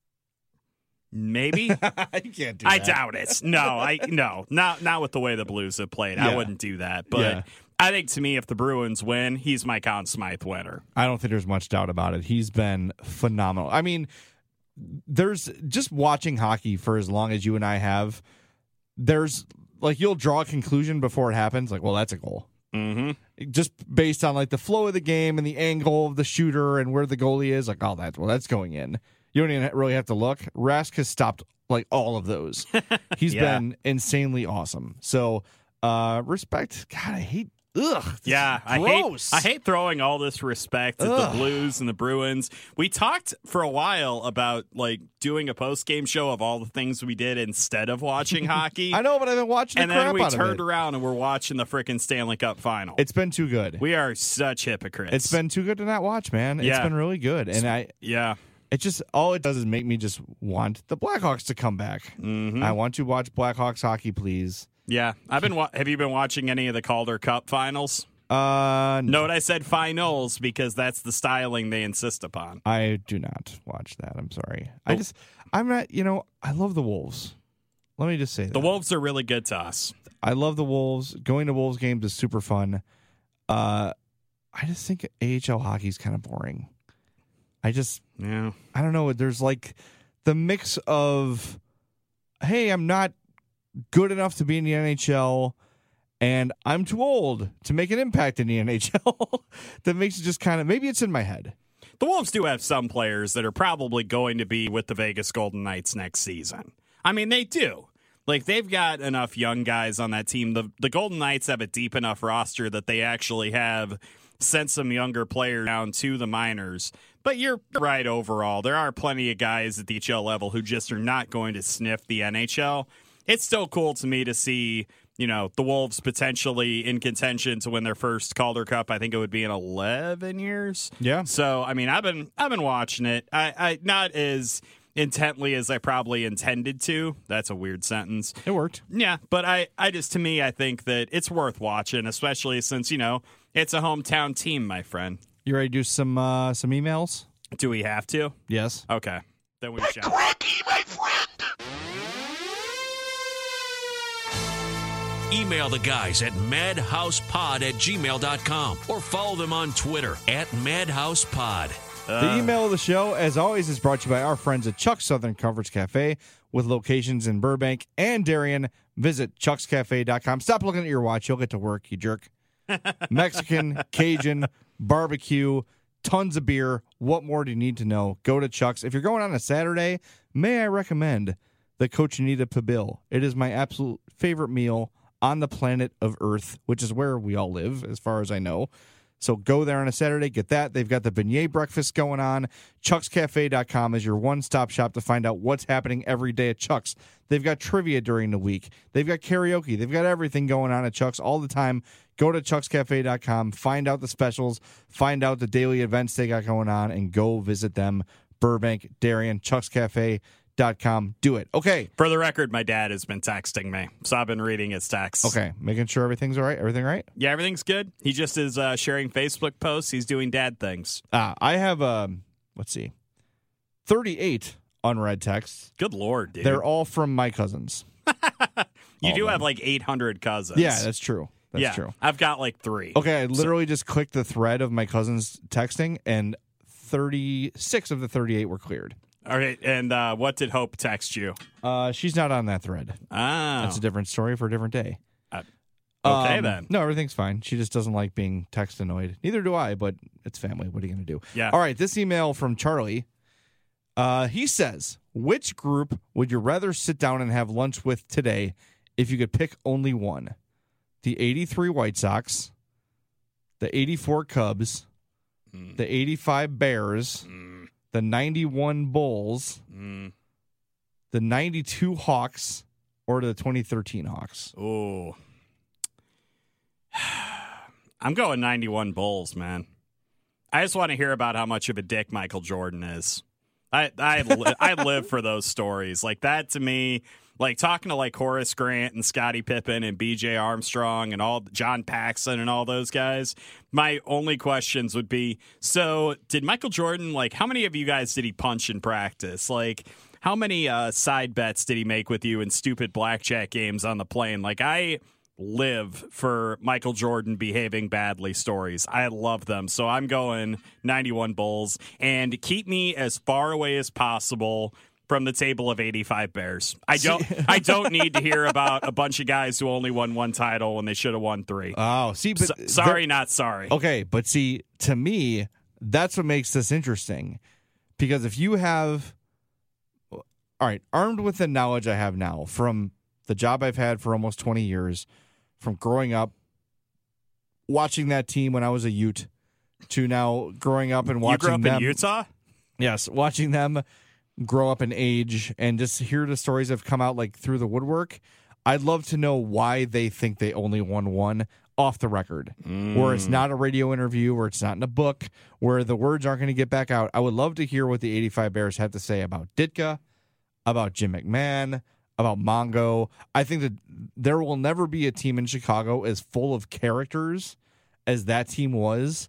Maybe. You can't do I that. doubt it. No, I no, not not with the way the Blues have played. Yeah. I wouldn't do that. But Yeah. I think to me, if the Bruins win, he's my Conn Smythe winner. I don't think there's much doubt about it. He's been phenomenal. I mean, there's just watching hockey for as long as you and I have, there's like you'll draw a conclusion before it happens. Like, well, that's a goal. Mm-hmm. just based on like the flow of the game and the angle of the shooter and where the goalie is, like, oh, that's well, that's going in. You don't even really have to look. Rask has stopped like all of those. He's Yeah. been insanely awesome. So uh, respect. God, I hate. Ugh. Yeah, I hate gross. I hate throwing all this respect at Ugh. the Blues and the Bruins. We talked for a while about like doing a post game show of all the things we did instead of watching hockey. I know, but I've been watching the and crap then we out of turned it. around and we're watching the freaking Stanley Cup final. It's been too good. We are such hypocrites. It's been too good to not watch, man. It's Yeah. been really good, and I. yeah. It just all it does is make me just want the Blackhawks to come back. Mm-hmm. I want to watch Blackhawks hockey, please. Yeah, I've been. Wa- have you been watching any of the Calder Cup finals? Uh, Note I said finals because that's the styling they insist upon. I do not watch that. I'm sorry. I just, I'm not. You know, I love the Wolves. Let me just say that The Wolves are really good to us. I love the Wolves. Going to Wolves games is super fun. Uh, I just think A H L hockey is kind of boring. I just, Yeah. I don't know. There's like the mix of, hey, I'm not good enough to be in the N H L, and I'm too old to make an impact in the N H L. That makes it just kind of, maybe it's in my head. The Wolves do have some players that are probably going to be with the Vegas Golden Knights next season. I mean, they do. Like, they've got enough young guys on that team. The, the Golden Knights have a deep enough roster that they actually have sent some younger players down to the minors. But you're right overall. There are plenty of guys at the H L level who just are not going to sniff the N H L. It's still cool to me to see, you know, the Wolves potentially in contention to win their first Calder Cup. I think it would be in eleven years. Yeah. So, I mean, I've been I've been watching it. I, I not as intently as I probably intended to. That's a weird sentence. It worked. Yeah, but I, I just, to me, I think that it's worth watching, especially since, you know, it's a hometown team, my friend. You ready to do some uh, some emails? Do we have to? Yes. Okay. Then we shall. Cranky, my friend! Email the guys at madhousepod at gmail dot com or follow them on Twitter at madhousepod. The email of the show, as always, is brought to you by our friends at Chuck's Southern Comforts Cafe with locations in Burbank and Darien. Visit chucks cafe dot com. Stop looking at your watch. You'll get to work, you jerk. Mexican, Cajun, barbecue, tons of beer. What more do you need to know? Go to Chuck's. If you're going on a Saturday, may I recommend the Cochinita Pibil. It is my absolute favorite meal on the planet of Earth, which is where we all live, as far as I know. So go there on a Saturday, get that. They've got the beignet breakfast going on. chucks cafe dot com is your one-stop shop to find out what's happening every day at Chuck's. They've got trivia during the week. They've got karaoke. They've got everything going on at Chuck's all the time. Go to chucks cafe dot com, find out the specials, find out the daily events they got going on, and go visit them. Burbank, Darien, chucks cafe dot com. Do it. Okay. For the record, my dad has been texting me, so I've been reading his texts. Okay. Making sure everything's all right. Everything right? Yeah, everything's good. He just is uh, sharing Facebook posts. He's doing dad things. Ah, I have, um, let's see, thirty-eight unread texts. Good Lord, dude. They're all from my cousins. you all do of have them. like eight hundred cousins. Yeah, that's true. That's yeah, true. I've got like three. Okay, I literally just clicked the thread of my cousins texting, and thirty-six of the thirty-eight were cleared. All right, and uh, what did Hope text you? Uh, she's not on that thread. Ah. That's a different story for a different day. Uh, okay, Um, then. No, everything's fine. She just doesn't like being text annoyed. Neither do I, but it's family. What are you going to do? Yeah. All right, this email from Charlie. Uh, he says, which group would you rather sit down and have lunch with today if you could pick only one? The eighty-three White Sox, the eighty-four Cubs, Mm. the eighty-five Bears, Mm. the ninety-one Bulls, Mm. the ninety-two Hawks, or the twenty thirteen Hawks? Ooh. I'm going ninety-one Bulls, man. I just want to hear about how much of a dick Michael Jordan is. I I li- I live for those stories. Like that to me, like talking to like Horace Grant and Scottie Pippen and B J Armstrong and all John Paxson and all those guys. My only questions would be, so did Michael Jordan, like how many of you guys did he punch in practice? Like how many uh, side bets did he make with you in stupid blackjack games on the plane? Like I live for Michael Jordan behaving badly stories. I love them. So I'm going ninety-one Bulls and keep me as far away as possible from the table of eighty-five Bears. I don't I don't need to hear about a bunch of guys who only won one title when they should have won three. Oh, see, but S- sorry, not sorry. Okay, but see, to me, that's what makes this interesting. Because if you have, all right, armed with the knowledge I have now from the job I've had for almost twenty years, from growing up, watching that team when I was a Ute, to now growing up and watching You grew up them, in Utah? Yes, watching them grow up in age and just hear the stories that have come out like through the woodwork. I'd love to know why they think they only won one off the record, mm. where it's not a radio interview, where it's not in a book, where the words aren't going to get back out. I would love to hear what the eighty-five Bears have to say about Ditka, about Jim McMahon, about Mongo. I think that there will never be a team in Chicago as full of characters as that team was.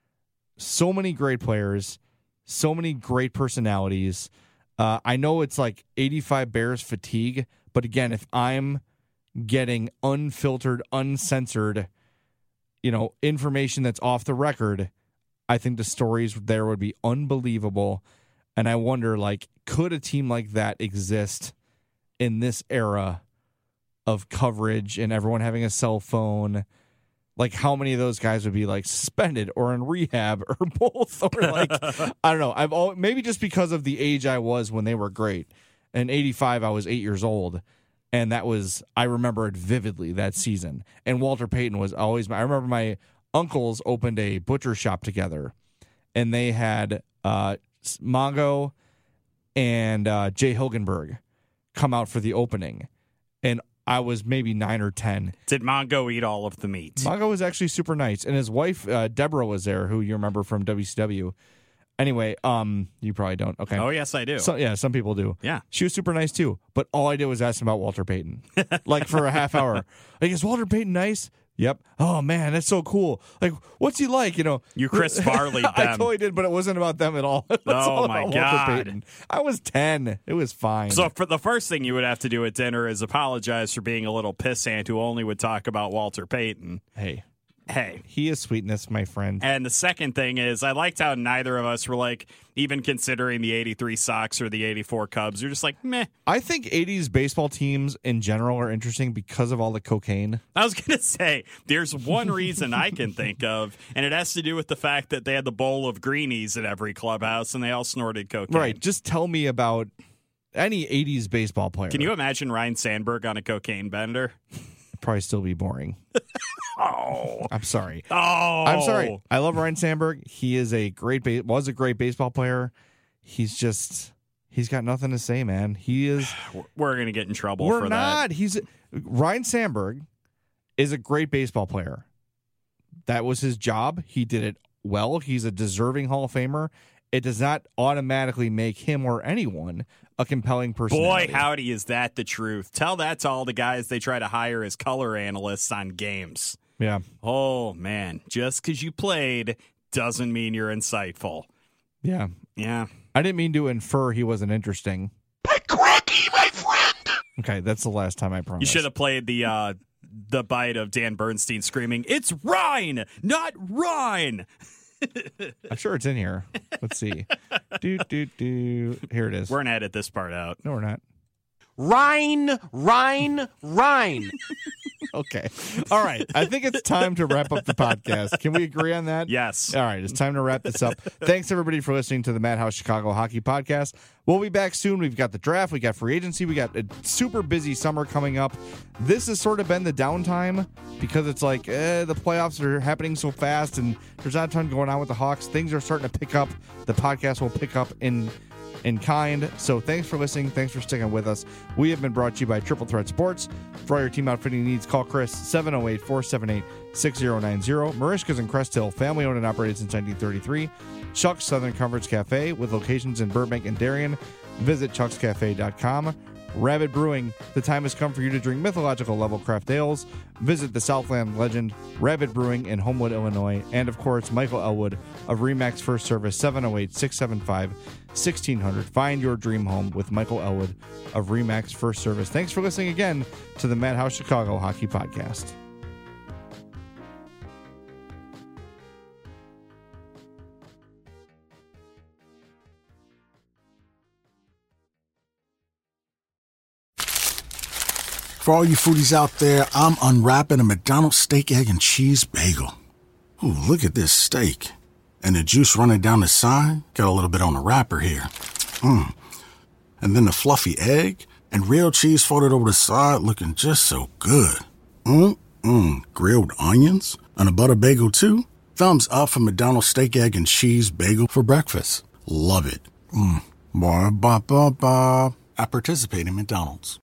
So many great players, so many great personalities. Uh, I know it's like eighty-five Bears fatigue, but again, if I'm getting unfiltered, uncensored, you know, information that's off the record, I think the stories there would be unbelievable. And I wonder, like, could a team like that exist in this era of coverage and everyone having a cell phone? Like, how many of those guys would be like suspended or in rehab or both? Or like, I don't know. I've all, maybe just because of the age I was when they were great. In eighty-five, I was eight years old. And that was, I remember it vividly that season. And Walter Payton was always, I remember my uncles opened a butcher shop together. And they had uh, Mongo and uh, Jay Hilgenberg come out for the opening. And I was maybe nine or ten. Did Mongo eat all of the meat? Mongo was actually super nice. And his wife, uh, Deborah, was there, who you remember from W C W. Anyway, um, you probably don't. Okay. Oh, yes, I do. So, yeah, some people do. Yeah. She was super nice, too. But all I did was ask him about Walter Payton. Like, for a half hour. Like, is Walter Payton nice? Yep. Oh, man, that's so cool. Like, what's he like? You know, you Chris Farley'd I them. totally did, but it wasn't about them at all. It was oh, all my about God. Walter Payton. I was ten. It was fine. So, for the first thing you would have to do at dinner is apologize for being a little pissant who only would talk about Walter Payton. Hey. Hey. He is sweetness, my friend. And the second thing is, I liked how neither of us were like, even considering the eighty-three Sox or the eighty-four Cubs. You're just like, meh. I think eighties baseball teams in general are interesting because of all the cocaine. I was going to say, there's one reason I can think of, and it has to do with the fact that they had the bowl of greenies at every clubhouse and they all snorted cocaine. Right. Just tell me about any eighties baseball player. Can you imagine Ryan Sandberg on a cocaine bender? Probably still be boring. Oh, I'm sorry. Oh, I'm sorry. I love Ryan Sandberg. He is a great ba- was a great baseball player. He's just he's got nothing to say, man. He is. We're gonna get in trouble. We're for not. That. He's Ryan Sandberg is a great baseball player. That was his job. He did it well. He's a deserving Hall of Famer. It does not automatically make him or anyone a compelling personality. Boy, howdy, is that the truth. Tell that to all the guys they try to hire as color analysts on games. Yeah. Oh, man. Just because you played doesn't mean you're insightful. Yeah. Yeah. I didn't mean to infer he wasn't interesting. Cracky, my friend! Okay, that's the last time I promise. You should have played the uh, the bite of Dan Bernstein screaming, "It's Ryan, not Ryan!" I'm sure it's in here. Let's see. do, do, do. Here it is. We're going to edit this part out. No, we're not. Rhine, Rhine, Rhine. Okay. All right. I think it's time to wrap up the podcast. Can we agree on that? Yes. All right. It's time to wrap this up. Thanks, everybody, for listening to the Madhouse Chicago Hockey Podcast. We'll be back soon. We've got the draft. We got free agency. We got a super busy summer coming up. This has sort of been the downtime because it's like eh, the playoffs are happening so fast and there's not a ton going on with the Hawks. Things are starting to pick up. The podcast will pick up in in kind. So thanks for listening. Thanks for sticking with us. We have been brought to you by Triple Threat Sports. For all your team outfitting needs, call Chris seven oh eight, four seven eight, six oh nine oh. Marishka's in Crest Hill, family owned and operated since nineteen thirty-three. Chuck's Southern Comforts Cafe with locations in Burbank and Darien. Visit chucks cafe dot com. Rabbit Brewing, the time has come for you to drink mythological level craft ales. Visit the Southland legend, Rabbit Brewing in Homewood, Illinois. And, of course, Michael Elwood of RE/MAX First Service, seven oh eight, six seven five, one six zero zero. Find your dream home with Michael Elwood of RE/MAX First Service. Thanks for listening again to the Madhouse Chicago Hockey Podcast. For all you foodies out there, I'm unwrapping a McDonald's steak, egg, and cheese bagel. Ooh, look at this steak. And the juice running down the side. Got a little bit on the wrapper here. Mmm. And then the fluffy egg and real cheese folded over the side looking just so good. Mmm-mmm. Grilled onions and a butter bagel too. Thumbs up for McDonald's steak, egg, and cheese bagel for breakfast. Love it. Mmm. Ba ba ba ba. I participate in McDonald's.